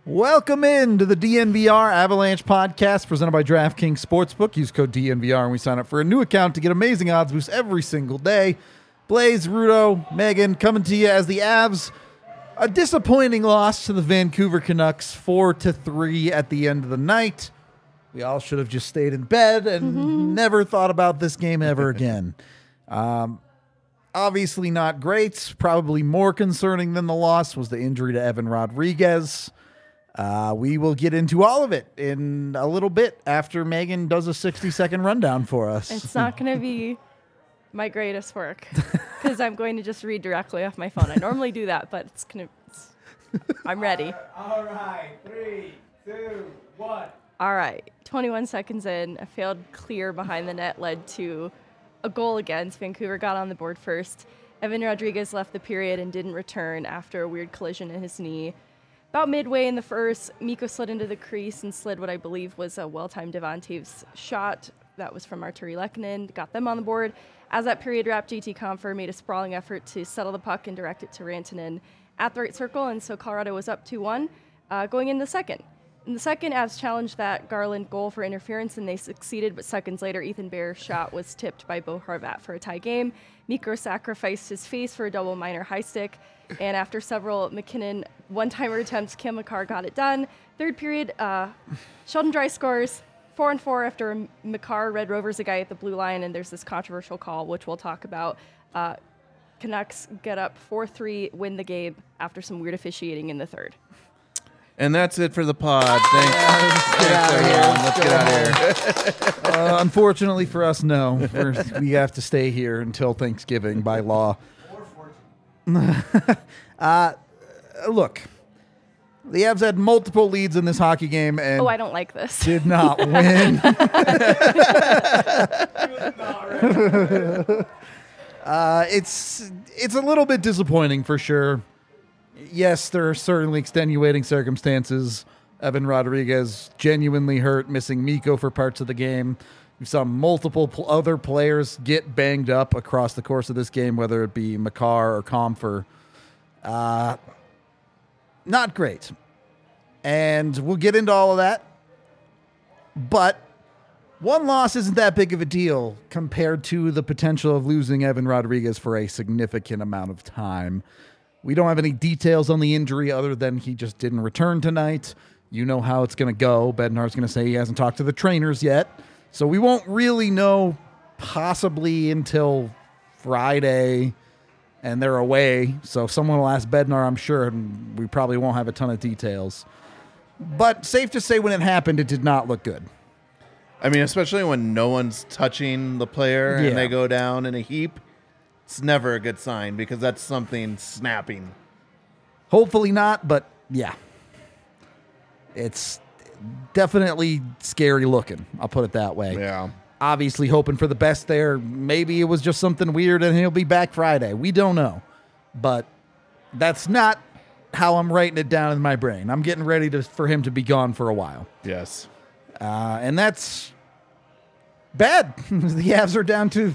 Welcome in to the DNVR Avalanche podcast presented by DraftKings Sportsbook. Use code DNVR when we sign up for a new account to get amazing odds boosts every single day. Blaze, Rudo, Megan coming to you as the Avs. A disappointing loss to the Vancouver Canucks 4-3 at the end of the night. We all should have just stayed in bed and never thought about this game ever again. Obviously not great. Probably more concerning than the loss was the injury to Evan Rodriguez. We will get into all of it in a little bit after Megan does a 60-second rundown for us. It's not going to be my greatest work because I'm going to just read directly off my phone. I normally do that, but I'm ready. All right, 3, 2, 1. All right, 21 seconds in, a failed clear behind the net led to a goal against. Vancouver got on the board first. Evan Rodriguez left the period and didn't return after a weird collision in his knee. About midway in the first, Mikko slid into the crease and slid what I believe was a well-timed Devon Toews shot. That was from Artturi Lehkonen, got them on the board. As that period wrapped, JT Compher made a sprawling effort to settle the puck and direct it to Rantanen at the right circle, and so Colorado was up 2-1 going in the second. In the second, Avs challenged that Garland goal for interference, and they succeeded, but seconds later, Ethan Bear's shot was tipped by Bo Horvat for a tie game. Mikko sacrificed his face for a double minor high stick, and after several McKinnon one-timer attempts, Cam Makar got it done. Third period, Sheldon Dry scores 4-4 after Makar Red Rovers a guy at the blue line, and there's this controversial call, which we'll talk about. Canucks get up 4-3, win the game after some weird officiating in the third. And that's it for the pod. Thanks everyone. Let's get out of here. Unfortunately for us, no. We have to stay here until Thanksgiving by law. Look, the Avs had multiple leads in this hockey game and I don't like this. did not win. It's a little bit disappointing for sure. Yes, there are certainly extenuating circumstances. Evan Rodriguez genuinely hurt, missing Mikko for parts of the game. We saw multiple other players get banged up across the course of this game, whether it be Makar or Compher. Not great. And we'll get into all of that. But one loss isn't that big of a deal compared to the potential of losing Evan Rodriguez for a significant amount of time. We don't have any details on the injury other than he just didn't return tonight. You know how it's going to go. Bednar's going to say he hasn't talked to the trainers yet. So we won't really know possibly until Friday, and they're away. So someone will ask Bednar, I'm sure, and we probably won't have a ton of details. But safe to say when it happened, it did not look good. I mean, especially when no one's touching the player and they go down in a heap. It's never a good sign because that's something snapping. Hopefully not, but yeah. It's definitely scary looking. I'll put it that way. Yeah. Obviously hoping for the best there. Maybe it was just something weird and he'll be back Friday. We don't know. But that's not how I'm writing it down in my brain. I'm getting ready for him to be gone for a while. Yes. And that's bad. The Avs are down to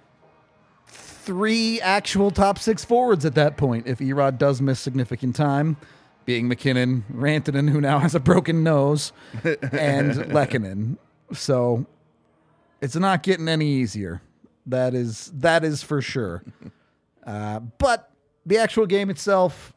3 actual top 6 forwards at that point if Erod does miss significant time, being McKinnon, Rantanen, who now has a broken nose, and Lehkonen. So it's not getting any easier. That is for sure. But the actual game itself,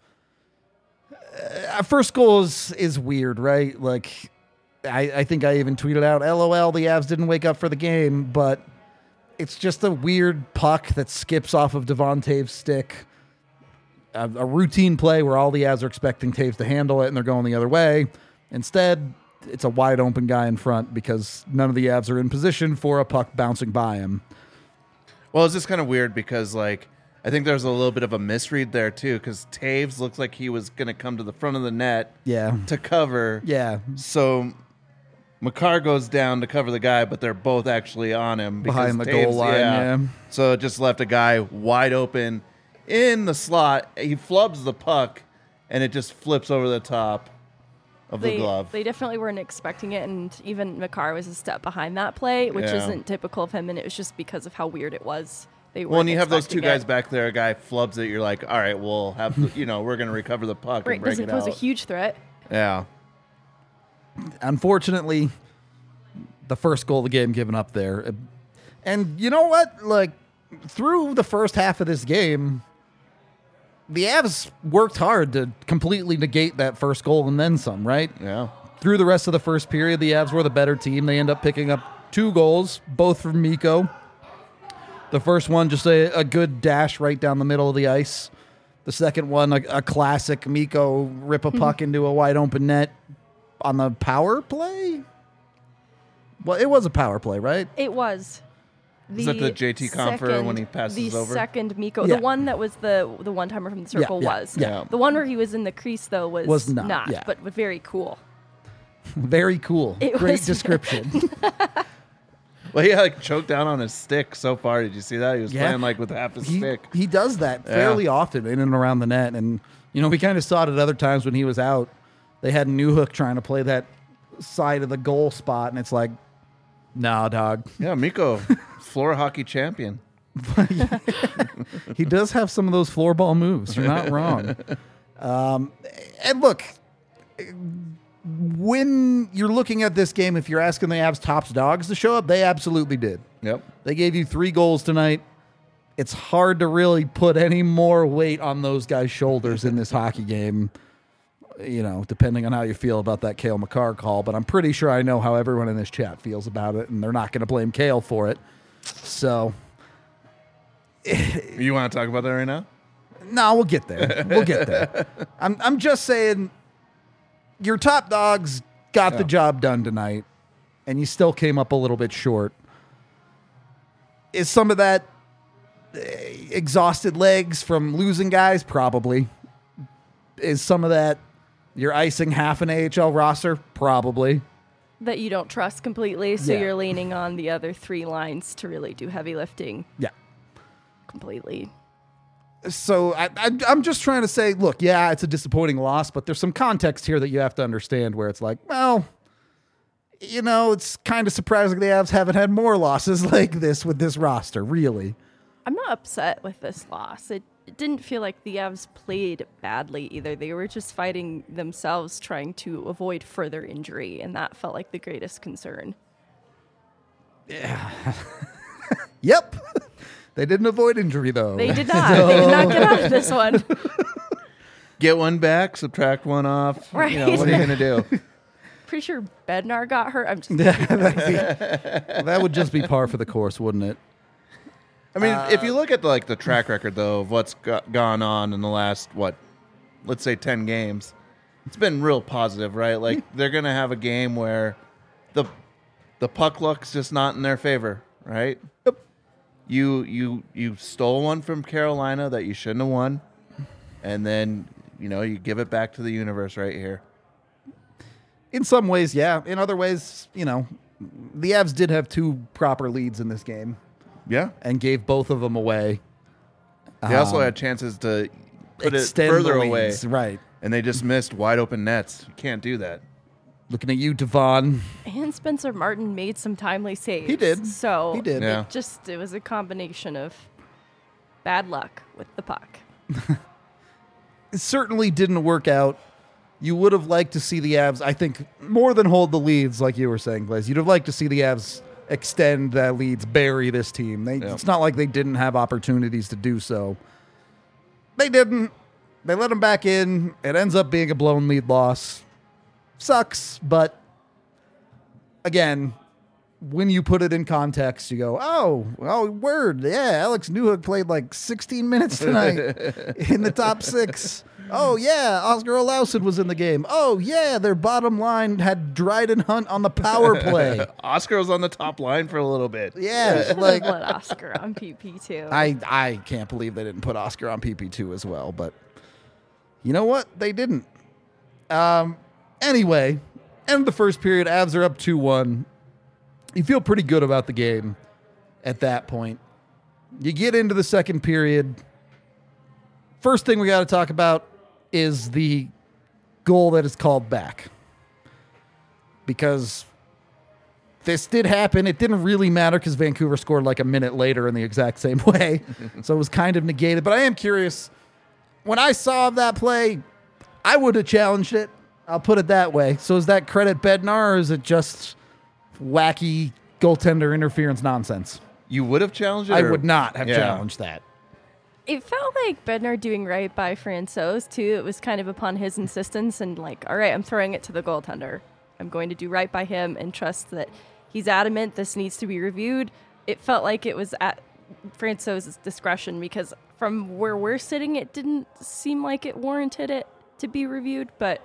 first goal is weird, right? Like, I think I even tweeted out, LOL, the Avs didn't wake up for the game, but it's just a weird puck that skips off of Devon Toews' stick. A routine play where all the Avs are expecting Toews to handle it and they're going the other way. Instead, it's a wide open guy in front because none of the Avs are in position for a puck bouncing by him. Well, it's just kind of weird because, like, I think there's a little bit of a misread there, too, because Toews looks like he was going to come to the front of the net to cover. Yeah. So Makar goes down to cover the guy, but they're both actually on him. Behind the goal line, yeah. So it just left a guy wide open in the slot. He flubs the puck, and it just flips over the top of the glove. They definitely weren't expecting it, and even Makar was a step behind that play, which isn't typical of him, and it was just because of how weird it was. When you have those two guys back there, a guy flubs it, you're like, all right, we'll have, we're going to recover the puck and break it out. Doesn't pose a huge threat. Yeah. unfortunately, the first goal of the game given up there. And you know what? Like, through the first half of this game, the Avs worked hard to completely negate that first goal and then some, right? Yeah. Through the rest of the first period, the Avs were the better team. They end up picking up 2 goals, both from Mikko. The first one, just a good dash right down the middle of the ice. The second one, a classic Mikko rip a puck into a wide open net on the power play. Well, it was a power play, right? It was. Is that the JT Compher when he passes over? The second Mikko. Yeah. The one that was the one-timer from the circle was. yeah. The one where he was in the crease, though, was not yeah. but very cool. Very cool. It Great was description. Well, he like choked down on his stick so far. Did you see that? He was Yeah. playing like with half his stick. He does that fairly often in and around the net. And, we kind of saw it at other times when he was out. They had Newhook trying to play that side of the goal spot, and it's like, nah, dog. Yeah, Mikko, floor hockey champion. He does have some of those floorball moves. You're not wrong. And look, when you're looking at this game, if you're asking the Avs top dogs to show up, they absolutely did. Yep. They gave you 3 goals tonight. It's hard to really put any more weight on those guys' shoulders in this hockey game, depending on how you feel about that Cale Makar call. But I'm pretty sure I know how everyone in this chat feels about it, and they're not going to blame Cale for it. So, You want to talk about that right now? no, we'll get there. We'll get there. I'm just saying, your top dogs got the job done tonight, and you still came up a little bit short. Is some of that exhausted legs from losing guys? Probably. Is some of that you're icing half an AHL roster? Probably. That you don't trust completely, so Yeah. you're leaning on the other 3 lines to really do heavy lifting Yeah. completely. So I'm just trying to say, look, yeah, it's a disappointing loss, but there's some context here that you have to understand where it's like, well, it's kind of surprising the Avs haven't had more losses like this with this roster, really. I'm not upset with this loss. It didn't feel like the Avs played badly either. They were just fighting themselves, trying to avoid further injury, and that felt like the greatest concern. Yep. They didn't avoid injury, though. They did not. They did not get out of this one. Get one back, subtract one off. Right. What are you going to do? Pretty sure Bednar got hurt. I'm just That would just be par for the course, wouldn't it? I mean, if you look at the track record, though, of what's gone on in the last, let's say 10 games, it's been real positive, right? Like, they're going to have a game where the puck luck's just not in their favor, right? Yep. You stole one from Carolina that you shouldn't have won, and then, you give it back to the universe right here. In some ways, yeah. In other ways, the Avs did have 2 proper leads in this game Yeah. and gave both of them away. They also had chances to put it Extend further the away, leads, right. and they just missed wide open nets. You can't do that. Looking at you, Devon. And Spencer Martin made some timely saves. He did. So He did. Yeah. it was a combination of bad luck with the puck. It certainly didn't work out. You would have liked to see the Avs, I think, more than hold the leads, like you were saying, Blaze. You'd have liked to see the Avs extend that leads, bury this team. It's not like they didn't have opportunities to do so. They didn't. They let them back in. It ends up being a blown lead loss. Sucks, but again, when you put it in context, you go, oh, word. Yeah, Alex Newhook played like 16 minutes tonight in the top 6. Oh, yeah, Oscar Olausson was in the game. Oh, yeah, their bottom line had Dryden Hunt on the power play. Oscar was on the top line for a little bit. Yeah, Should like have let Oscar on PP2. I can't believe they didn't put Oscar on PP2 as well, but you know what? They didn't. Anyway, end of the first period, Avs are up 2-1. You feel pretty good about the game at that point. You get into the second period. First thing we got to talk about is the goal that is called back. Because this did happen. It didn't really matter because Vancouver scored like a minute later in the exact same way. So it was kind of negated. But I am curious. When I saw that play, I would have challenged it. I'll put it that way. So is that credit Bednar, or is it just wacky goaltender interference nonsense? You would have challenged it? I or- would not have Yeah. challenged that. It felt like Bednar doing right by Francouz, too. It was kind of upon his insistence and like, all right, I'm throwing it to the goaltender. I'm going to do right by him and trust that he's adamant this needs to be reviewed. It felt like it was at Francouz's discretion because from where we're sitting, it didn't seem like it warranted it to be reviewed, but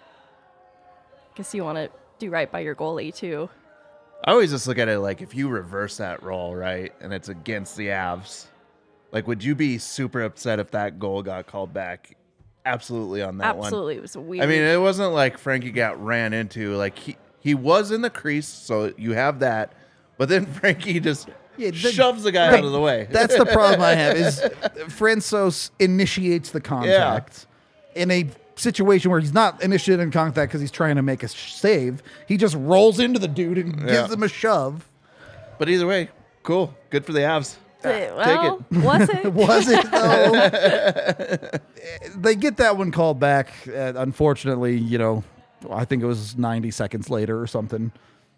I guess you want to do right by your goalie, too. I always just look at it like if you reverse that role, right, and it's against the Avs, like, would you be super upset if that goal got called back? Absolutely on that one. Absolutely. It was weird. I mean, it wasn't like Frankie got ran into. Like, he was in the crease, so you have that. But then Frankie just shoves the guy out of the way. That's the problem I have is Francouz initiates the contact in a situation where he's not initiating contact because he's trying to make a save. He just rolls into the dude and gives him a shove. But either way, cool. Good for the Avs. Well, was it? Was it though? They get that one called back. Unfortunately, I think it was 90 seconds later or something.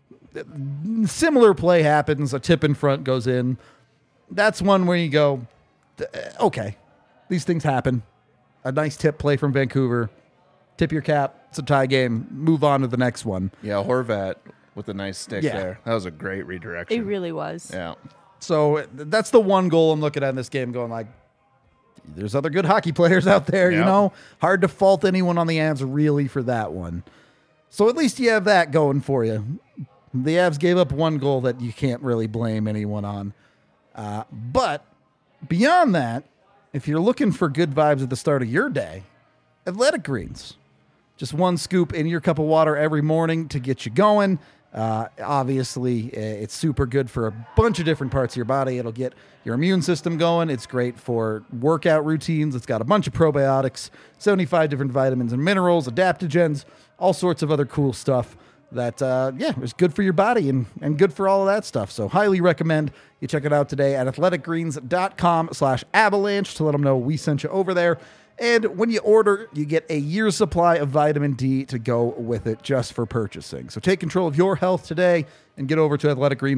Similar play happens. A tip in front goes in. That's one where you go, okay, these things happen. A nice tip play from Vancouver. Tip your cap. It's a tie game. Move on to the next one. Yeah, Horvat with a nice stick there. That was a great redirection. It really was. Yeah. So that's the one goal I'm looking at in this game going like, there's other good hockey players out there, Hard to fault anyone on the Avs really for that one. So at least you have that going for you. The Avs gave up one goal that you can't really blame anyone on. But beyond that, if you're looking for good vibes at the start of your day, Athletic Greens. Just one scoop in your cup of water every morning to get you going. Obviously, it's super good for a bunch of different parts of your body. It'll get your immune system going. It's great for workout routines. It's got a bunch of probiotics, 75 different vitamins and minerals, adaptogens, all sorts of other cool stuff that, is good for your body and good for all of that stuff. So highly recommend you check it out today at athleticgreens.com/avalanche to let them know we sent you over there. And when you order, you get a year's supply of vitamin D to go with it just for purchasing. So take control of your health today and get over to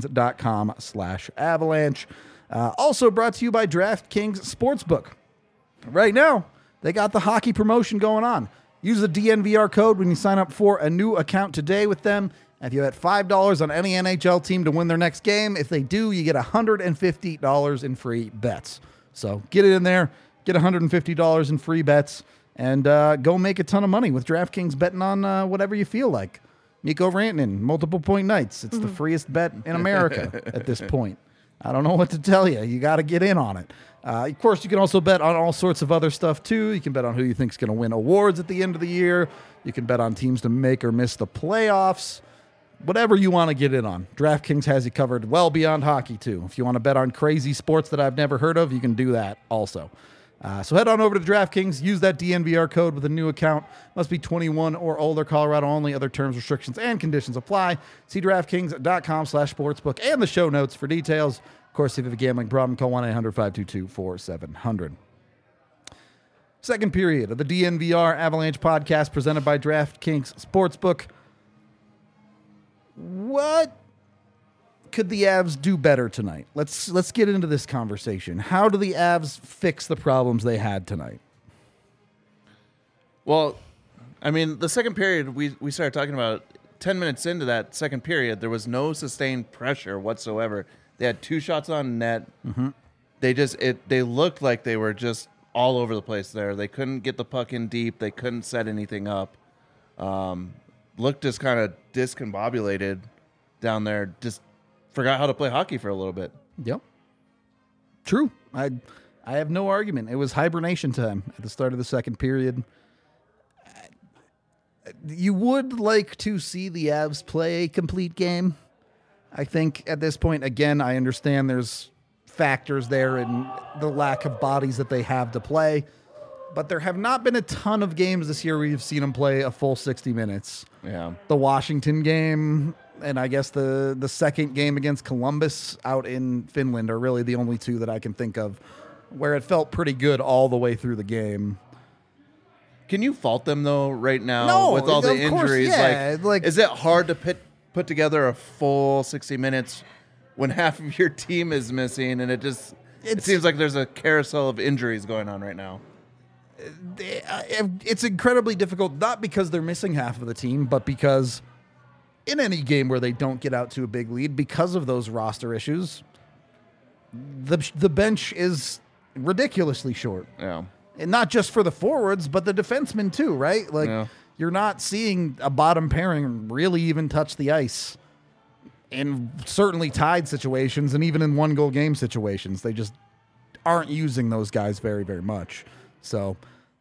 athleticgreens.com/avalanche. Also brought to you by DraftKings Sportsbook. Right now, they got the hockey promotion going on. Use the DNVR code when you sign up for a new account today with them. If you bet $5 on any NHL team to win their next game, if they do, you get $150 in free bets. So get it in there. Get $150 in free bets and go make a ton of money with DraftKings betting on whatever you feel like. Mikko Rantanen, multiple point nights. It's the freest bet in America at this point. I don't know what to tell you. You got to get in on it. Of course, you can also bet on all sorts of other stuff, too. You can bet on who you think is going to win awards at the end of the year. You can bet on teams to make or miss the playoffs. Whatever you want to get in on. DraftKings has you covered well beyond hockey, too. If you want to bet on crazy sports that I've never heard of, you can do that also. So head on over to DraftKings. Use that DNVR code with a new account. Must be 21 or older. Colorado only. Other terms, restrictions, and conditions apply. See DraftKings.com/sportsbook and the show notes for details. Of course, if you have a gambling problem, call 1-800-522-4700. Second period of the DNVR Avalanche podcast presented by DraftKings Sportsbook. What could the Avs do better tonight? Let's get into this conversation. How do the Avs fix the problems they had tonight? Well, I mean, the second period, we started talking about 10 minutes into that second period, there was no sustained pressure whatsoever. They had 2 shots on net. Mm-hmm. They looked like they were just all over the place there. They couldn't get the puck in deep. They couldn't set anything up. Looked just kind of discombobulated down there. Just forgot how to play hockey for a little bit. Yep. True. I have no argument. It was hibernation time at the start of the second period. You would like to see the Avs play a complete game. I think at this point, again, I understand there's factors there in the lack of bodies that they have to play. But there have not been a ton of games this year where you've seen them play a full 60 minutes. Yeah. The Washington game and I guess the second game against Columbus out in Finland are really the only 2 that I can think of where it felt pretty good all the way through the game. Can you fault them though right now No, with all the of course, injuries? yeah, like- is it hard to put together a full 60 minutes when half of your team is missing, and it seems like there's a carousel of injuries going on right now? It's incredibly difficult, not because they're missing half of the team, but because in any game where they don't get out to a big lead because of those roster issues, the bench is ridiculously short. Yeah. And not just for the forwards, but the defensemen too, right? Like, Yeah. you're not seeing a bottom pairing really even touch the ice in certainly tied situations and even in 1-goal game situations. They just aren't using those guys very, very much. So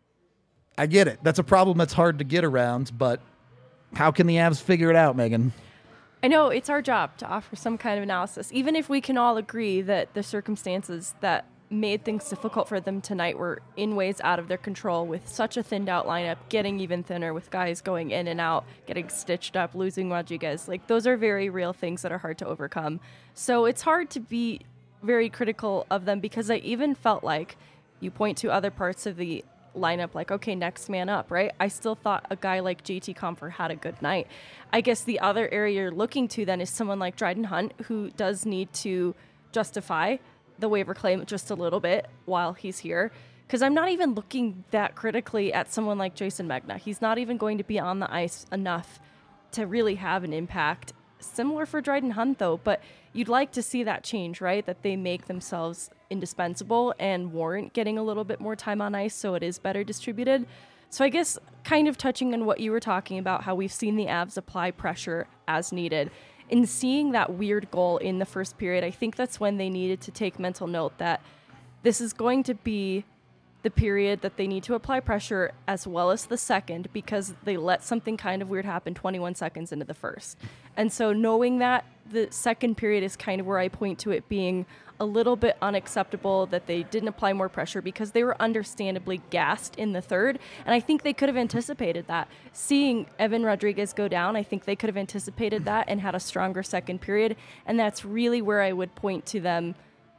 I get it. That's a problem that's hard to get around, but how can the Avs figure it out, Megan? I know it's our job to offer some kind of analysis, even if we can all agree that the circumstances that made things difficult for them tonight were in ways out of their control, with such a thinned out lineup, getting even thinner with guys going in and out, getting stitched up, losing Rodriguez. Like, those are very real things that are hard to overcome. So it's hard to be very critical of them, because I even felt like you point to other parts of the lineup, like, okay, next man up, right? I still thought a guy like JT Compher had a good night. I guess the other area you're looking to then is someone like Dryden Hunt, who does need to justify the waiver claim just a little bit while he's here, because I'm not even looking that critically at someone like Jason Megna. He's not even going to be on the ice enough to really have an impact. Similar for Dryden Hunt, though, but you'd like to see that change, right? That they make themselves indispensable and warrant getting a little bit more time on ice so it is better distributed. So I guess kind of touching on what you were talking about, how we've seen the Avs apply pressure as needed. In seeing that weird goal in the first period, I think that's when they needed to take mental note that this is going to be the period that they need to apply pressure, as well as the second, because they let something kind of weird happen 21 seconds into the first. And so knowing that, the second period is kind of where I point to it being a little bit unacceptable, that they didn't apply more pressure because they were understandably gassed in the third. And I think they could have anticipated that. Seeing Evan Rodriguez go down, I think they could have anticipated that and had a stronger second period. And that's really where I would point to them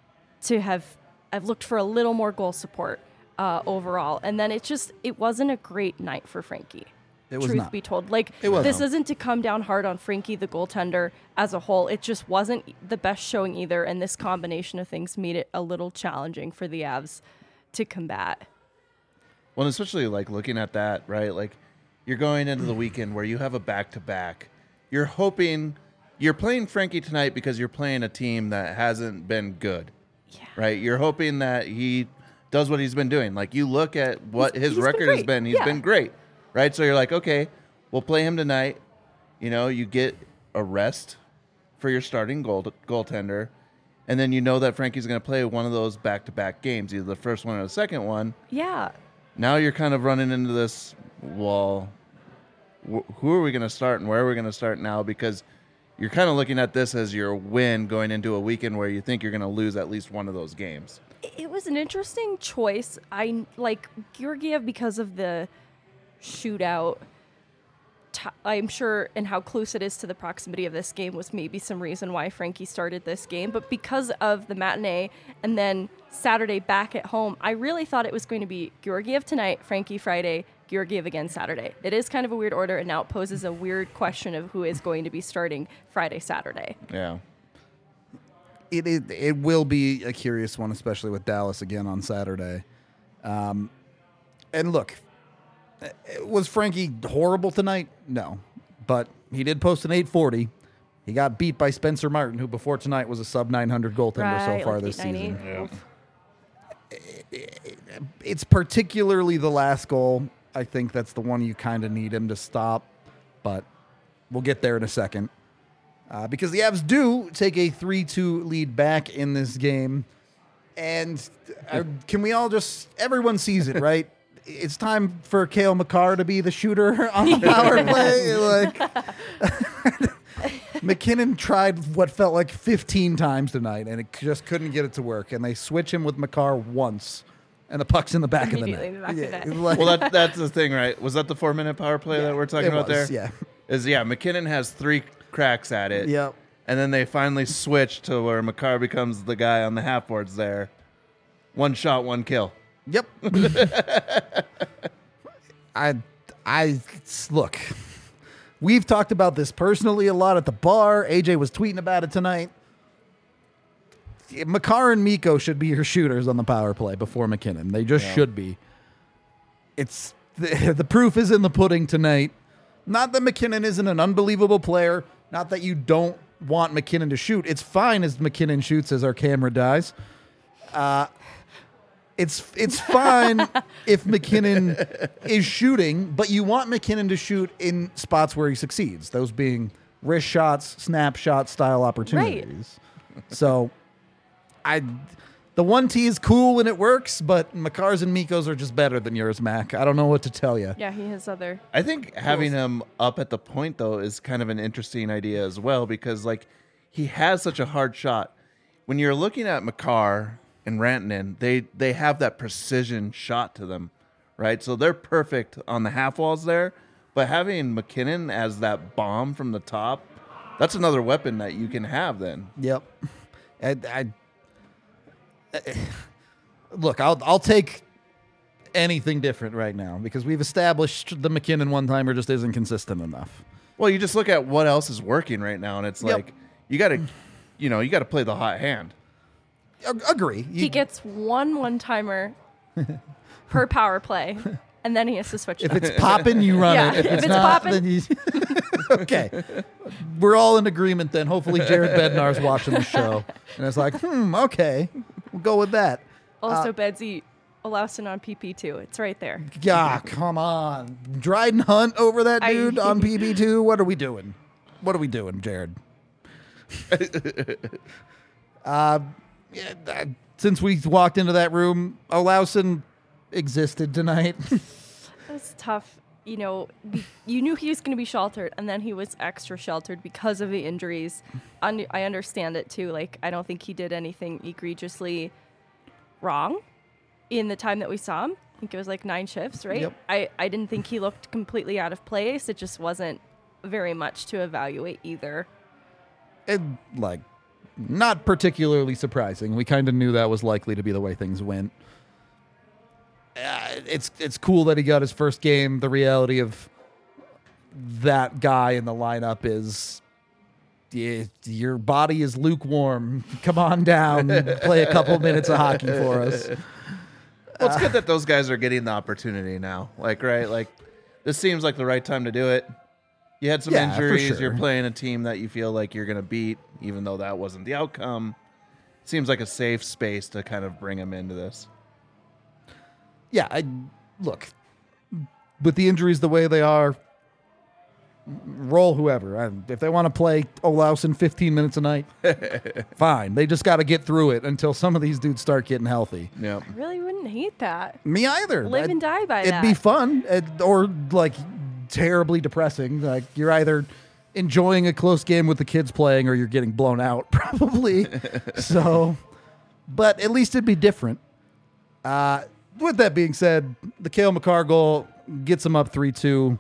to have, I've looked for a little more goal support overall. And then it wasn't a great night for Frankie. It was Truth not. be told. Like, It wasn't. this isn't to come down hard on Frankie, the goaltender, as a whole. It just wasn't the best showing either, and this combination of things made it a little challenging for the Avs to combat. Well, and especially like looking at that, right? Like, you're going into the weekend where you have a back-to-back. You're hoping you're playing Frankie tonight because you're playing a team that hasn't been good, right? You're hoping that he does what he's been doing. Like, you look at what his he's record been has great. been. He's Yeah. been great, right? So you're like, okay, we'll play him tonight. You know, you get a rest for your starting goaltender, and then you know that Frankie's going to play one of those back-to-back games, either the first one or the second one. Yeah. Now you're kind of running into this, well, who are we going to start and where are we going to start now? Because you're kind of looking at this as your win going into a weekend where you think you're going to lose at least one of those games. It was an interesting choice. I like Georgiev because of the shootout. I'm sure, and how close it is to the proximity of this game was maybe some reason why Frankie started this game. But because of the matinee and then Saturday back at home, I really thought it was going to be Georgiev tonight, Frankie Friday, Georgiev again Saturday. It is kind of a weird order, and now it poses a weird question of who is going to be starting Friday, Saturday. Yeah. It will be a curious one, especially with Dallas again on Saturday. And look, was Frankie horrible tonight? No. But he did post an 840. He got beat by Spencer Martin, who before tonight was a sub-900 goaltender so far like this 890. season. It's particularly the last goal. I think that's the one you kind of need him to stop. But we'll get there in a second. Because the Avs do take a 3-2 lead back in this game. And can we all just... Everyone sees it, right? It's time for Cale Makar to be the shooter on the power play. McKinnon tried what felt like 15 times tonight, and it just couldn't get it to work. And they switch him with Makar once, and the puck's in the back of the net. Immediately in the back of the net. like- Well, that's the thing, right? Was that the 4-minute power play that we're talking it about was, there? Yeah. McKinnon has 3 cracks at it. Yep. And then they finally switch to where Makar becomes the guy on the half boards there. 1 shot, 1 kill. Yep. Look, we've talked about this personally a lot at the bar. AJ was tweeting about it tonight. Makar and Mikko should be your shooters on the power play before McKinnon. They just should be. It's the proof is in the pudding tonight. Not that McKinnon isn't an unbelievable player. Not that you don't want McKinnon to shoot. It's fine as McKinnon shoots as our camera dies. It's fine if McKinnon is shooting, but you want McKinnon to shoot in spots where he succeeds. Those being wrist shots, snapshot style opportunities. Right. So the 1T is cool when it works, but Makar's and Mikko's are just better than yours, Mac. I don't know what to tell you. Yeah, he has other. I think having him up at the point, though, is kind of an interesting idea as well, because like he has such a hard shot. When you're looking at Makar and Rantanen, they have that precision shot to them, right? So they're perfect on the half walls there. But having McKinnon as that bomb from the top, that's another weapon that you can have then. Yep. Look, I'll take anything different right now because we've established the McKinnon one-timer just isn't consistent enough. Well, you just look at what else is working right now, and it's like you got to play the hot hand. Agree. He gets one-timer per power play, and then he has to switch. If it's popping, you run it. If it's not, popping, then you... Okay. We're all in agreement then. Hopefully Jared Bednar's watching the show. And it's like, okay. We'll go with that. Also, Bedsy, Olausson on PP2. It's right there. Yeah, come on. Dryden Hunt over that dude on PP2? What are we doing? What are we doing, Jared? Since we walked into that room, Olausson existed tonight. It was tough. You know, you knew he was going to be sheltered, and then he was extra sheltered because of the injuries. I understand it, too. Like, I don't think he did anything egregiously wrong in the time that we saw him. I think it was like 9 shifts, right? Yep. I didn't think he looked completely out of place. It just wasn't very much to evaluate either. And, like, not particularly surprising. We kind of knew that was likely to be the way things went. It's cool that he got his first game. The reality of that guy in the lineup is your body is lukewarm. Come on down, play a couple minutes of hockey for us. Well, it's good that those guys are getting the opportunity now. Like, right? Like, this seems like the right time to do it. You had some injuries. For sure. You're playing a team that you feel like you're going to beat, even though that wasn't the outcome. Seems like a safe space to kind of bring him into this. Yeah, look, with the injuries the way they are, roll whoever. If they want to play Olausson 15 minutes a night, fine. They just got to get through it until some of these dudes start getting healthy. Yeah, I really wouldn't hate that. Me either. Live and die by that. It'd be fun, or like terribly depressing. Like you're either enjoying a close game with the kids playing or you're getting blown out, probably. So, but at least it'd be different. With that being said, the Cale Makar goal gets him up 3-2.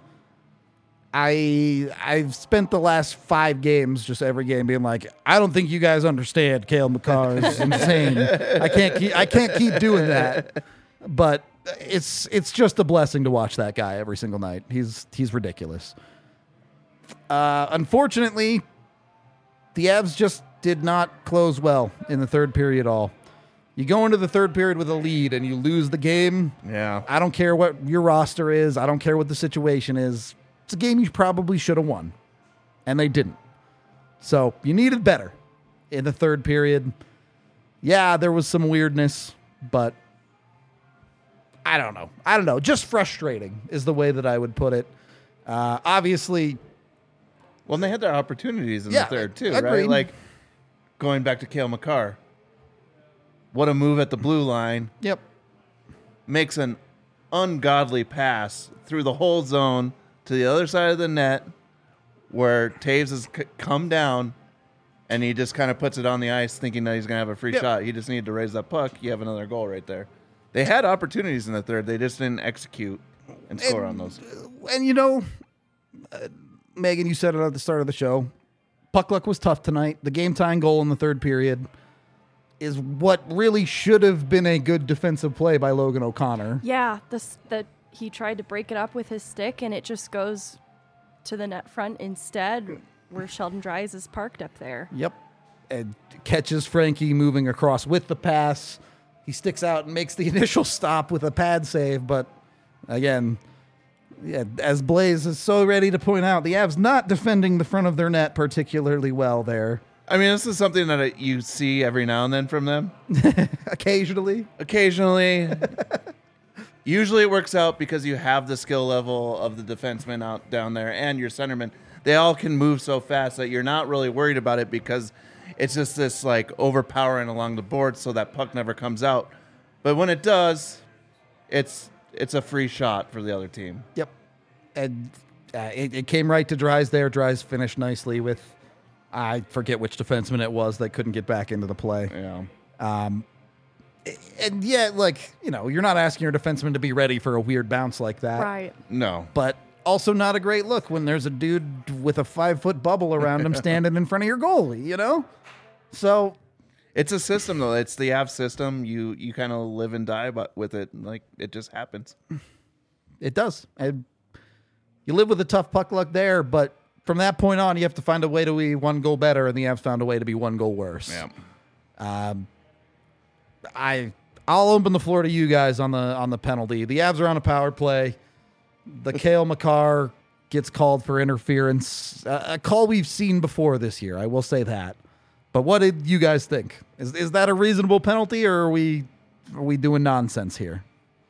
I've spent the last 5 games, just every game, being like, I don't think you guys understand. Cale Makar is insane. I can't keep doing that. But it's just a blessing to watch that guy every single night. He's ridiculous. Unfortunately, the Avs just did not close well in the third period at all. You go into the third period with a lead and you lose the game. Yeah. I don't care what your roster is. I don't care what the situation is. It's a game you probably should have won. And they didn't. So you needed better in the third period. Yeah, there was some weirdness, but I don't know. Just frustrating is the way that I would put it. Obviously. Well, and they had their opportunities in the third, too, agreed. right? Like, going back to Cale Makar. What a move at the blue line. Yep. Makes an ungodly pass through the whole zone to the other side of the net where Taves has come down and he just kind of puts it on the ice thinking that he's going to have a free shot. He just needed to raise that puck. You have another goal right there. They had opportunities in the third. They just didn't execute and score on those. And, Megan, you said it at the start of the show. Puck luck was tough tonight. The game-tying goal in the third period is what really should have been a good defensive play by Logan O'Connor. Yeah, the he tried to break it up with his stick, and it just goes to the net front instead, where Sheldon Dries is parked up there. Yep. And catches Frankie moving across with the pass. He sticks out and makes the initial stop with a pad save, but again, yeah, as Blaze is so ready to point out, the Avs not defending the front of their net particularly well there. I mean, this is something that you see every now and then from them. Occasionally. Usually it works out because you have the skill level of the defenseman out down there and your centerman. They all can move so fast that you're not really worried about it because it's just this like overpowering along the board so that puck never comes out. But when it does, it's a free shot for the other team. Yep. And it came right to Dries there. Dries finished nicely with, I forget which defenseman it was that couldn't get back into the play. Yeah. And yeah, like, you know, you're not asking your defenseman to be ready for a weird bounce like that. Right. No. But also not a great look when there's a dude with a 5-foot bubble around him standing in front of your goalie, you know? So It's a system, though. It's the Avs system. You kind of live and die with it. Like, it just happens. it does. And you live with a tough puck luck there, but from that point on, you have to find a way to be one goal better, and the Avs found a way to be one goal worse. Yeah. I'll open the floor to you guys on the penalty. The Avs are on a power play. The Cale Makar gets called for interference. A call we've seen before this year, I will say that. But what did you guys think? Is that a reasonable penalty, or are we doing nonsense here?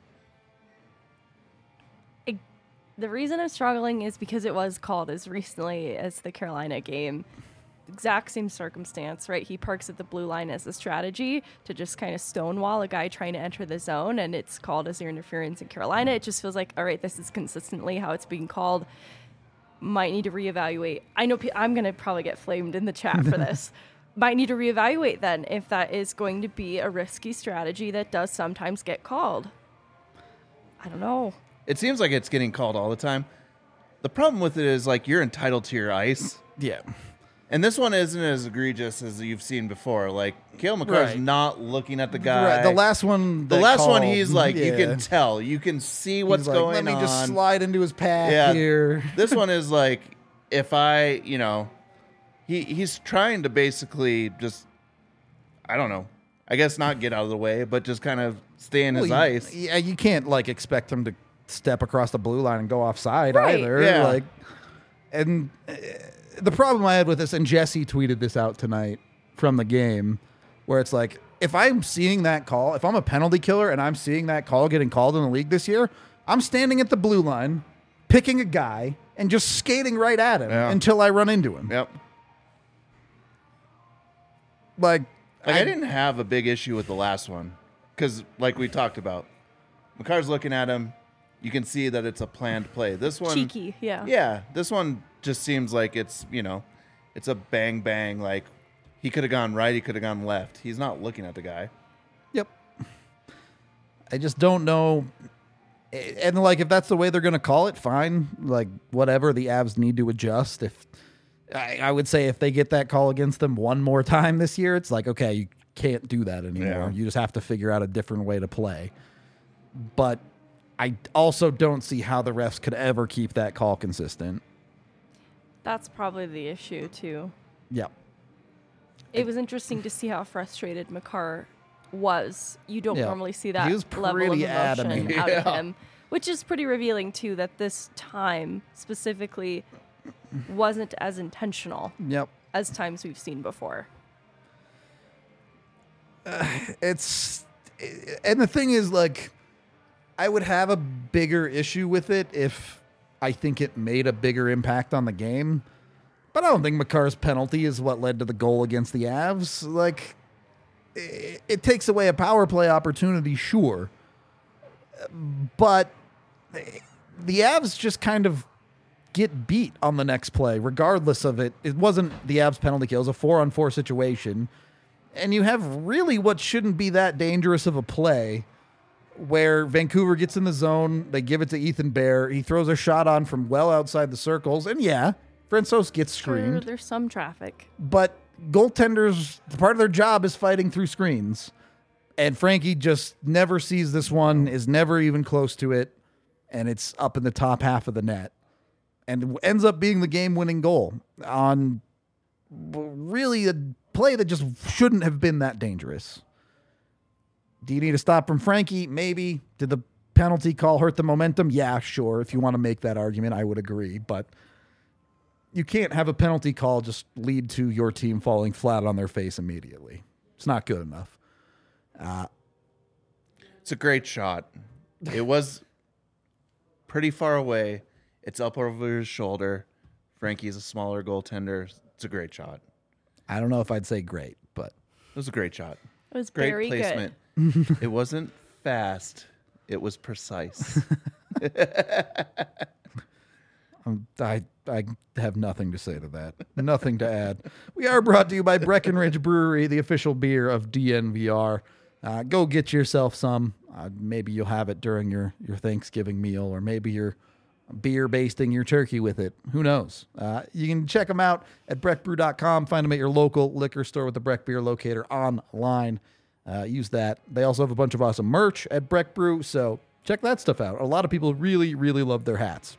The reason I'm struggling is because it was called as recently as the Carolina game. Exact same circumstance, right? He parks at the blue line as a strategy to just kind of stonewall a guy trying to enter the zone, and it's called as your interference in Carolina. It just feels like, all right, this is consistently how it's being called. Might need to reevaluate. I know I'm going to probably get flamed in the chat for this. Might need to reevaluate then if that is going to be a risky strategy that does sometimes get called. I don't know. It seems like it's getting called all the time. The problem with it is, like, you're entitled to your ice. Yeah. And this one isn't as egregious as you've seen before. Like, Cale Makar's Right. not looking at the guy. Right. The last one, He's like, you can tell. You can see what's He's like, going on. Let me just slide into his path Yeah. here. This one is like, if I, he's trying to basically just, I don't know, I guess not get out of the way, but just kind of stay in his ice. Yeah, you can't like expect him to step across the blue line and go offside Right. either. Yeah. Like, and the problem I had with this, and Jesse tweeted this out tonight from the game, where it's like, if I'm seeing that call, if I'm a penalty killer and I'm seeing that call getting called in the league this year, I'm standing at the blue line, picking a guy, and just skating right at him until I run into him. Yep. Like I didn't have a big issue with the last one because, like we talked about, Makar's looking at him. You can see that it's a planned play. This one, Cheeky, yeah. Yeah, this one just seems like it's a bang bang. Like he could have gone right, he could have gone left. He's not looking at the guy. Yep. I just don't know. And like, if that's the way they're going to call it, fine. Like, whatever. The Avs need to adjust. If I would say if they get that call against them one more time this year, it's like, okay, you can't do that anymore. Yeah. You just have to figure out a different way to play. But I also don't see how the refs could ever keep that call consistent. That's probably the issue, too. Yep. It was interesting to see how frustrated Makar was. You don't Yeah. normally see that He was level of pretty emotion adamant. out of Yeah. him, which is pretty revealing, too, that this time specifically wasn't as intentional Yep. as times we've seen before. And the thing is, like, I would have a bigger issue with it if I think it made a bigger impact on the game. But I don't think Makar's penalty is what led to the goal against the Avs. Like, it takes away a power play opportunity, sure. But the Avs just kind of get beat on the next play, regardless of it. It wasn't the Avs penalty kill. It was a 4-on-4 situation. And you have really what shouldn't be that dangerous of a play where Vancouver gets in the zone. They give it to Ethan Bear. He throws a shot on from well outside the circles. And yeah, Francouz gets screened. Sure, there's some traffic. But goaltenders, part of their job is fighting through screens. And Frankie just never sees this one, is never even close to it. and it's up in the top half of the net, and ends up being the game-winning goal on really a play that just shouldn't have been that dangerous. Do you need a stop from Frankie? Maybe. Did the penalty call hurt the momentum? Yeah, sure. If you want to make that argument, I would agree. But you can't have a penalty call just lead to your team falling flat on their face immediately. It's not good enough. It's a great shot. It was pretty far away. It's up over his shoulder. Frankie's a smaller goaltender. It's a great shot. I don't know if I'd say great, but It was a great shot. It was Great very placement. It wasn't fast. It was precise. I have nothing to say to that. Nothing to add. We are brought to you by Breckenridge Brewery, the official beer of DNVR. Go get yourself some. Maybe you'll have it during your Thanksgiving meal, or maybe you're beer basting your turkey with it. Who knows? You can check them out at breckbrew.com. Find them at your local liquor store with the Breck Beer Locator online. Use that. They also have a bunch of awesome merch at Breck Brew, so check that stuff out. A lot of people really, really love their hats.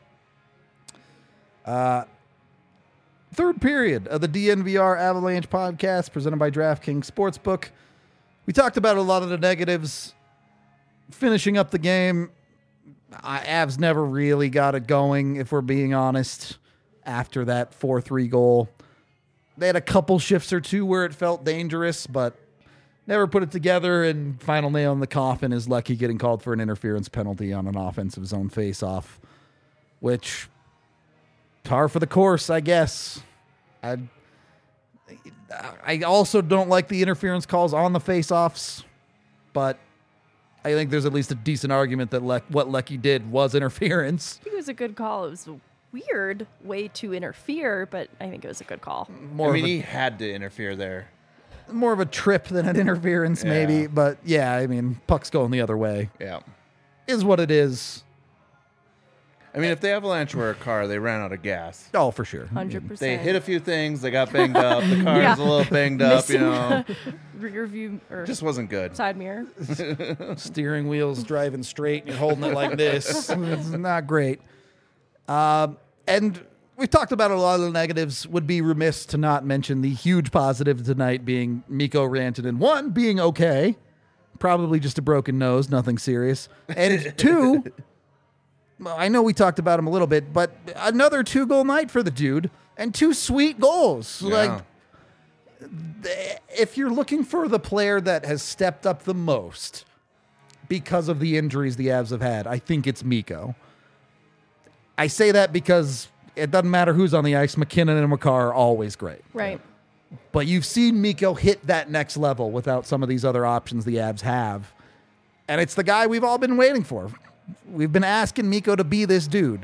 Third period of the DNVR Avalanche podcast presented by DraftKings Sportsbook. We talked about a lot of the negatives. Finishing up the game, Avs never really got it going, if we're being honest, after that 4-3 goal. They had a couple shifts or two where it felt dangerous, but never put it together, and final nail in the coffin is Lecky getting called for an interference penalty on an offensive zone faceoff, which, par for the course, I guess. I also don't like the interference calls on the faceoffs, but I think there's at least a decent argument that what Lecky did was interference. I think it was a good call. It was a weird way to interfere, but I think it was a good call. He had to interfere there. More of a trip than an interference, maybe. Yeah. But yeah, I mean, puck's going the other way. Yeah. Is what it is. I mean, if the Avalanche were a car, they ran out of gas. Oh, for sure. 100%. They hit a few things. They got banged up. The car Yeah. is a little banged up, you know. Rear view or Just wasn't good. side mirror. Steering wheel's driving straight and you're holding it like this. It's not great. And we've talked about a lot of the negatives. Would be remiss to not mention the huge positive tonight being Mikko Rantanen. One, being okay. Probably just a broken nose, nothing serious. And two, I know we talked about him a little bit, but another 2-goal night for the dude and 2 sweet goals. Yeah. Like, if you're looking for the player that has stepped up the most because of the injuries the Avs have had, I think it's Mikko. I say that because it doesn't matter who's on the ice. McKinnon and Makar are always great. Right. But you've seen Mikko hit that next level without some of these other options the Avs have. And it's the guy we've all been waiting for. We've been asking Mikko to be this dude.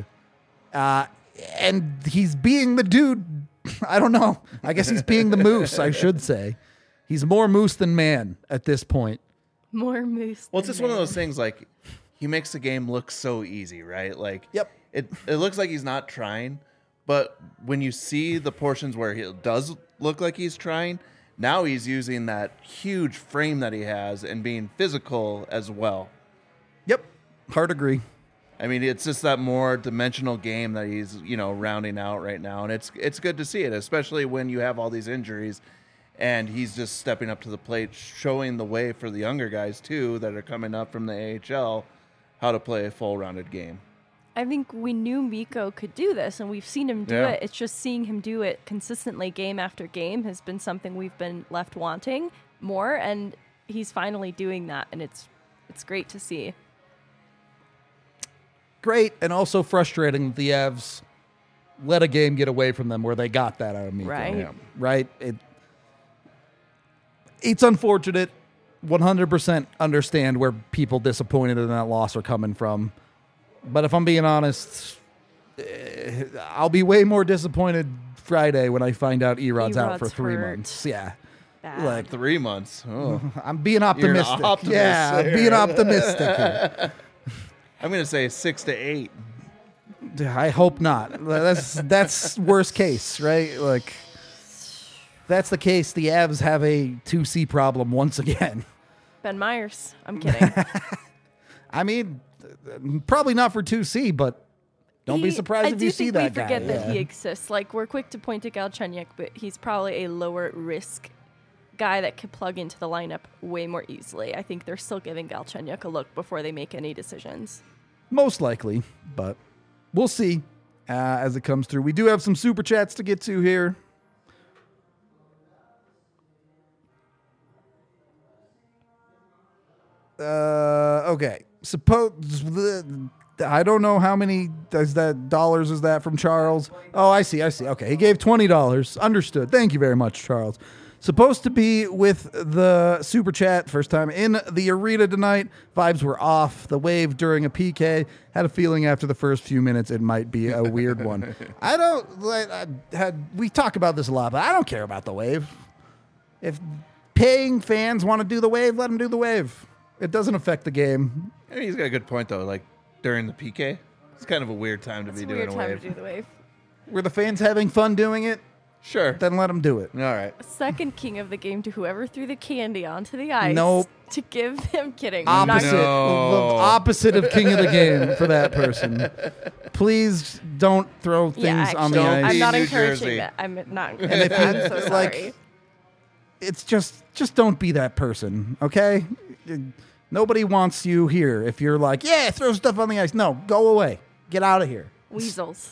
And he's being the dude. I don't know. I guess he's being the moose, I should say. He's more moose than man at this point. More moose. Well, it's than just one of man. those things, like, he makes the game look so easy, right? Like, Yep. it looks like he's not trying, but when you see the portions where he does look like he's trying, now he's using that huge frame that he has and being physical as well. Yep. Hard agree. I mean, it's just that more dimensional game that he's, rounding out right now. And it's good to see it, especially when you have all these injuries and he's just stepping up to the plate, showing the way for the younger guys, too, that are coming up from the AHL, how to play a full-rounded game. I think we knew Mikko could do this, and we've seen him do Yeah. it. It's just seeing him do it consistently game after game has been something we've been left wanting more, and he's finally doing that, and it's great to see. Great, and also frustrating that the Avs let a game get away from them where they got that out of Mikko. Right. Yeah. Right? It's unfortunate. 100% understand where people disappointed in that loss are coming from. But if I'm being honest, I'll be way more disappointed Friday when I find out Erod's out for Erod's 3 hurt. months. Yeah. Bad. Like, 3 months. Oh. I'm being optimistic. optimist yeah, there. being optimistic here. I'm going to say 6 to 8. I hope not. That's worst case, right? Like, that's the case. The Avs have a 2C problem once again. Ben Myers. I'm kidding. I mean, Probably not for 2C, but don't be surprised if you see that guy. I do think we forget that Yeah. he exists. Like, we're quick to point to Galchenyuk, but he's probably a lower risk guy that could plug into the lineup way more easily. I think they're still giving Galchenyuk a look before they make any decisions. Most likely, but we'll see as it comes through. We do have some super chats to get to here. Okay. Suppose I don't know how many dollars is that from Charles. Oh, I see. Okay, he gave $20. Understood. Thank you very much, Charles. Supposed to be with the super chat first time in the arena tonight. Vibes were off. The wave during a PK. Had a feeling after the first few minutes it might be a weird one. We talk about this a lot, but I don't care about the wave. If paying fans want to do the wave, let them do the wave. It doesn't affect the game. I mean, he's got a good point though. Like during the PK, it's kind of a weird time to It's be a doing weird a time wave. to do the wave. Were the fans having fun doing it? Sure. Then let them do it. All right. Second king of the game to whoever threw the candy onto the ice. Nope. To give him kidding. I'm not Opposite, kidding. the opposite of king of the game for that person. Please don't throw things Yeah, on the actually, ice. I'm not New encouraging Jersey. that. I'm not. if you- I'm so like- sorry. It's just don't be that person, okay? Nobody wants you here. If you're like, yeah, throw stuff on the ice. No, go away. Get out of here. Weasels.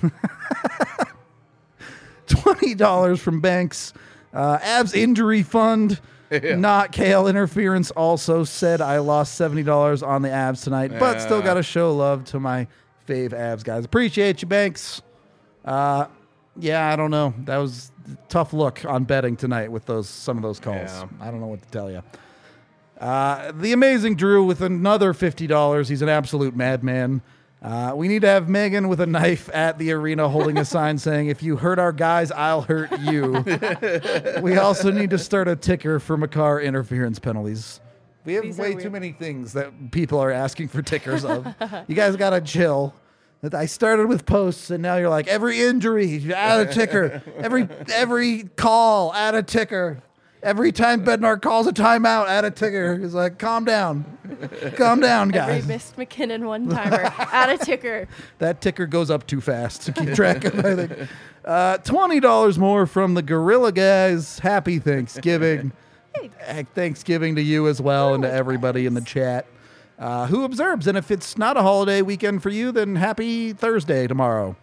$20 from Banks. Abs injury fund. Yeah. Not KL interference. Also said I lost $70 on the Abs tonight, but still Yeah. got to show love to my fave Abs guys. Appreciate you, Banks. Yeah, I don't know. That was a tough look on betting tonight with some of those calls. Yeah. I don't know what to tell you. The amazing Drew with another $50. He's an absolute madman. We need to have Megan with a knife at the arena holding a sign saying, if you hurt our guys, I'll hurt you. We also need to start a ticker for Makar interference penalties. We have These are way too weird. many things that people are asking for tickers of. You guys got to chill. I started with posts, and now you're like, every injury, add a ticker. Every call, add a ticker. Every time Bednar calls a timeout, add a ticker. He's like, calm down. Calm down, guys. Every missed McKinnon one-timer. Add a ticker. That ticker goes up too fast to keep track of, I think. $20 more from the Gorilla guys. Happy Thanksgiving. Thanksgiving to you as well and to everybody in the chat who observes. And if it's not a holiday weekend for you, then happy Thursday tomorrow.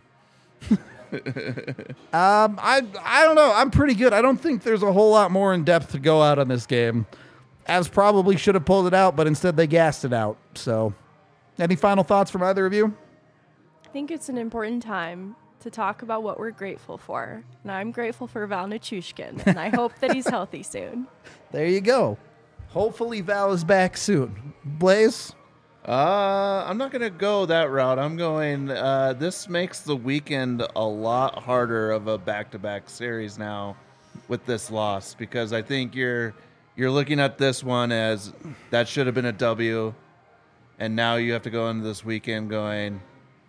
I don't know. I'm pretty good. I don't think there's a whole lot more in depth to go out on this game. Avs probably should have pulled it out, but instead they gassed it out. So, any final thoughts from either of you? I think it's an important time to talk about what we're grateful for. And I'm grateful for Val Nichushkin, and I hope that he's healthy soon. There you go. Hopefully Val is back soon. Blaze? I'm not going to go that route. I'm going, this makes the weekend a lot harder of a back-to-back series now with this loss, because I think you're looking at this one as that should have been a W, and now you have to go into this weekend going,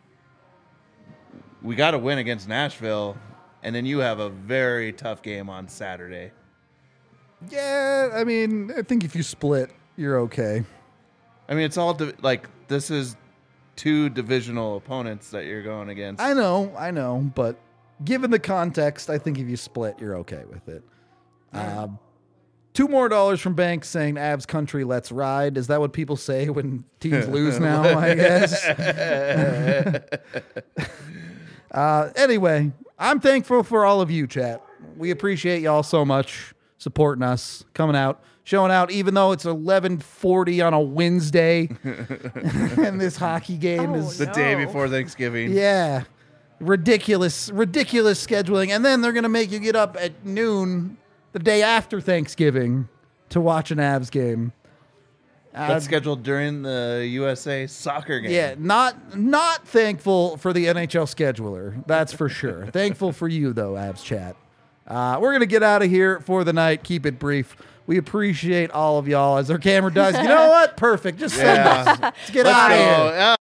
we got to win against Nashville, and then you have a very tough game on Saturday. Yeah, I mean, I think if you split, you're okay. I mean, it's all this is two divisional opponents that you're going against. I know, but given the context, I think if you split, you're okay with it. $2 more from Banks saying Avs country, let's ride. Is that what people say when teams lose now, I guess? Anyway, I'm thankful for all of you, chat. We appreciate y'all so much supporting us, coming out, showing out, even though it's 11:40 on a Wednesday, and this hockey game is the day before Thanksgiving. yeah, ridiculous scheduling, and then they're gonna make you get up at noon the day after Thanksgiving to watch an Avs game. That's scheduled during the USA soccer game. Yeah, not thankful for the NHL scheduler. That's for sure. Thankful for you though, Avs chat. We're gonna get out of here for the night. Keep it brief. We appreciate all of y'all as our camera does. You know what? Perfect. Just send us. Let's get out of here. Go.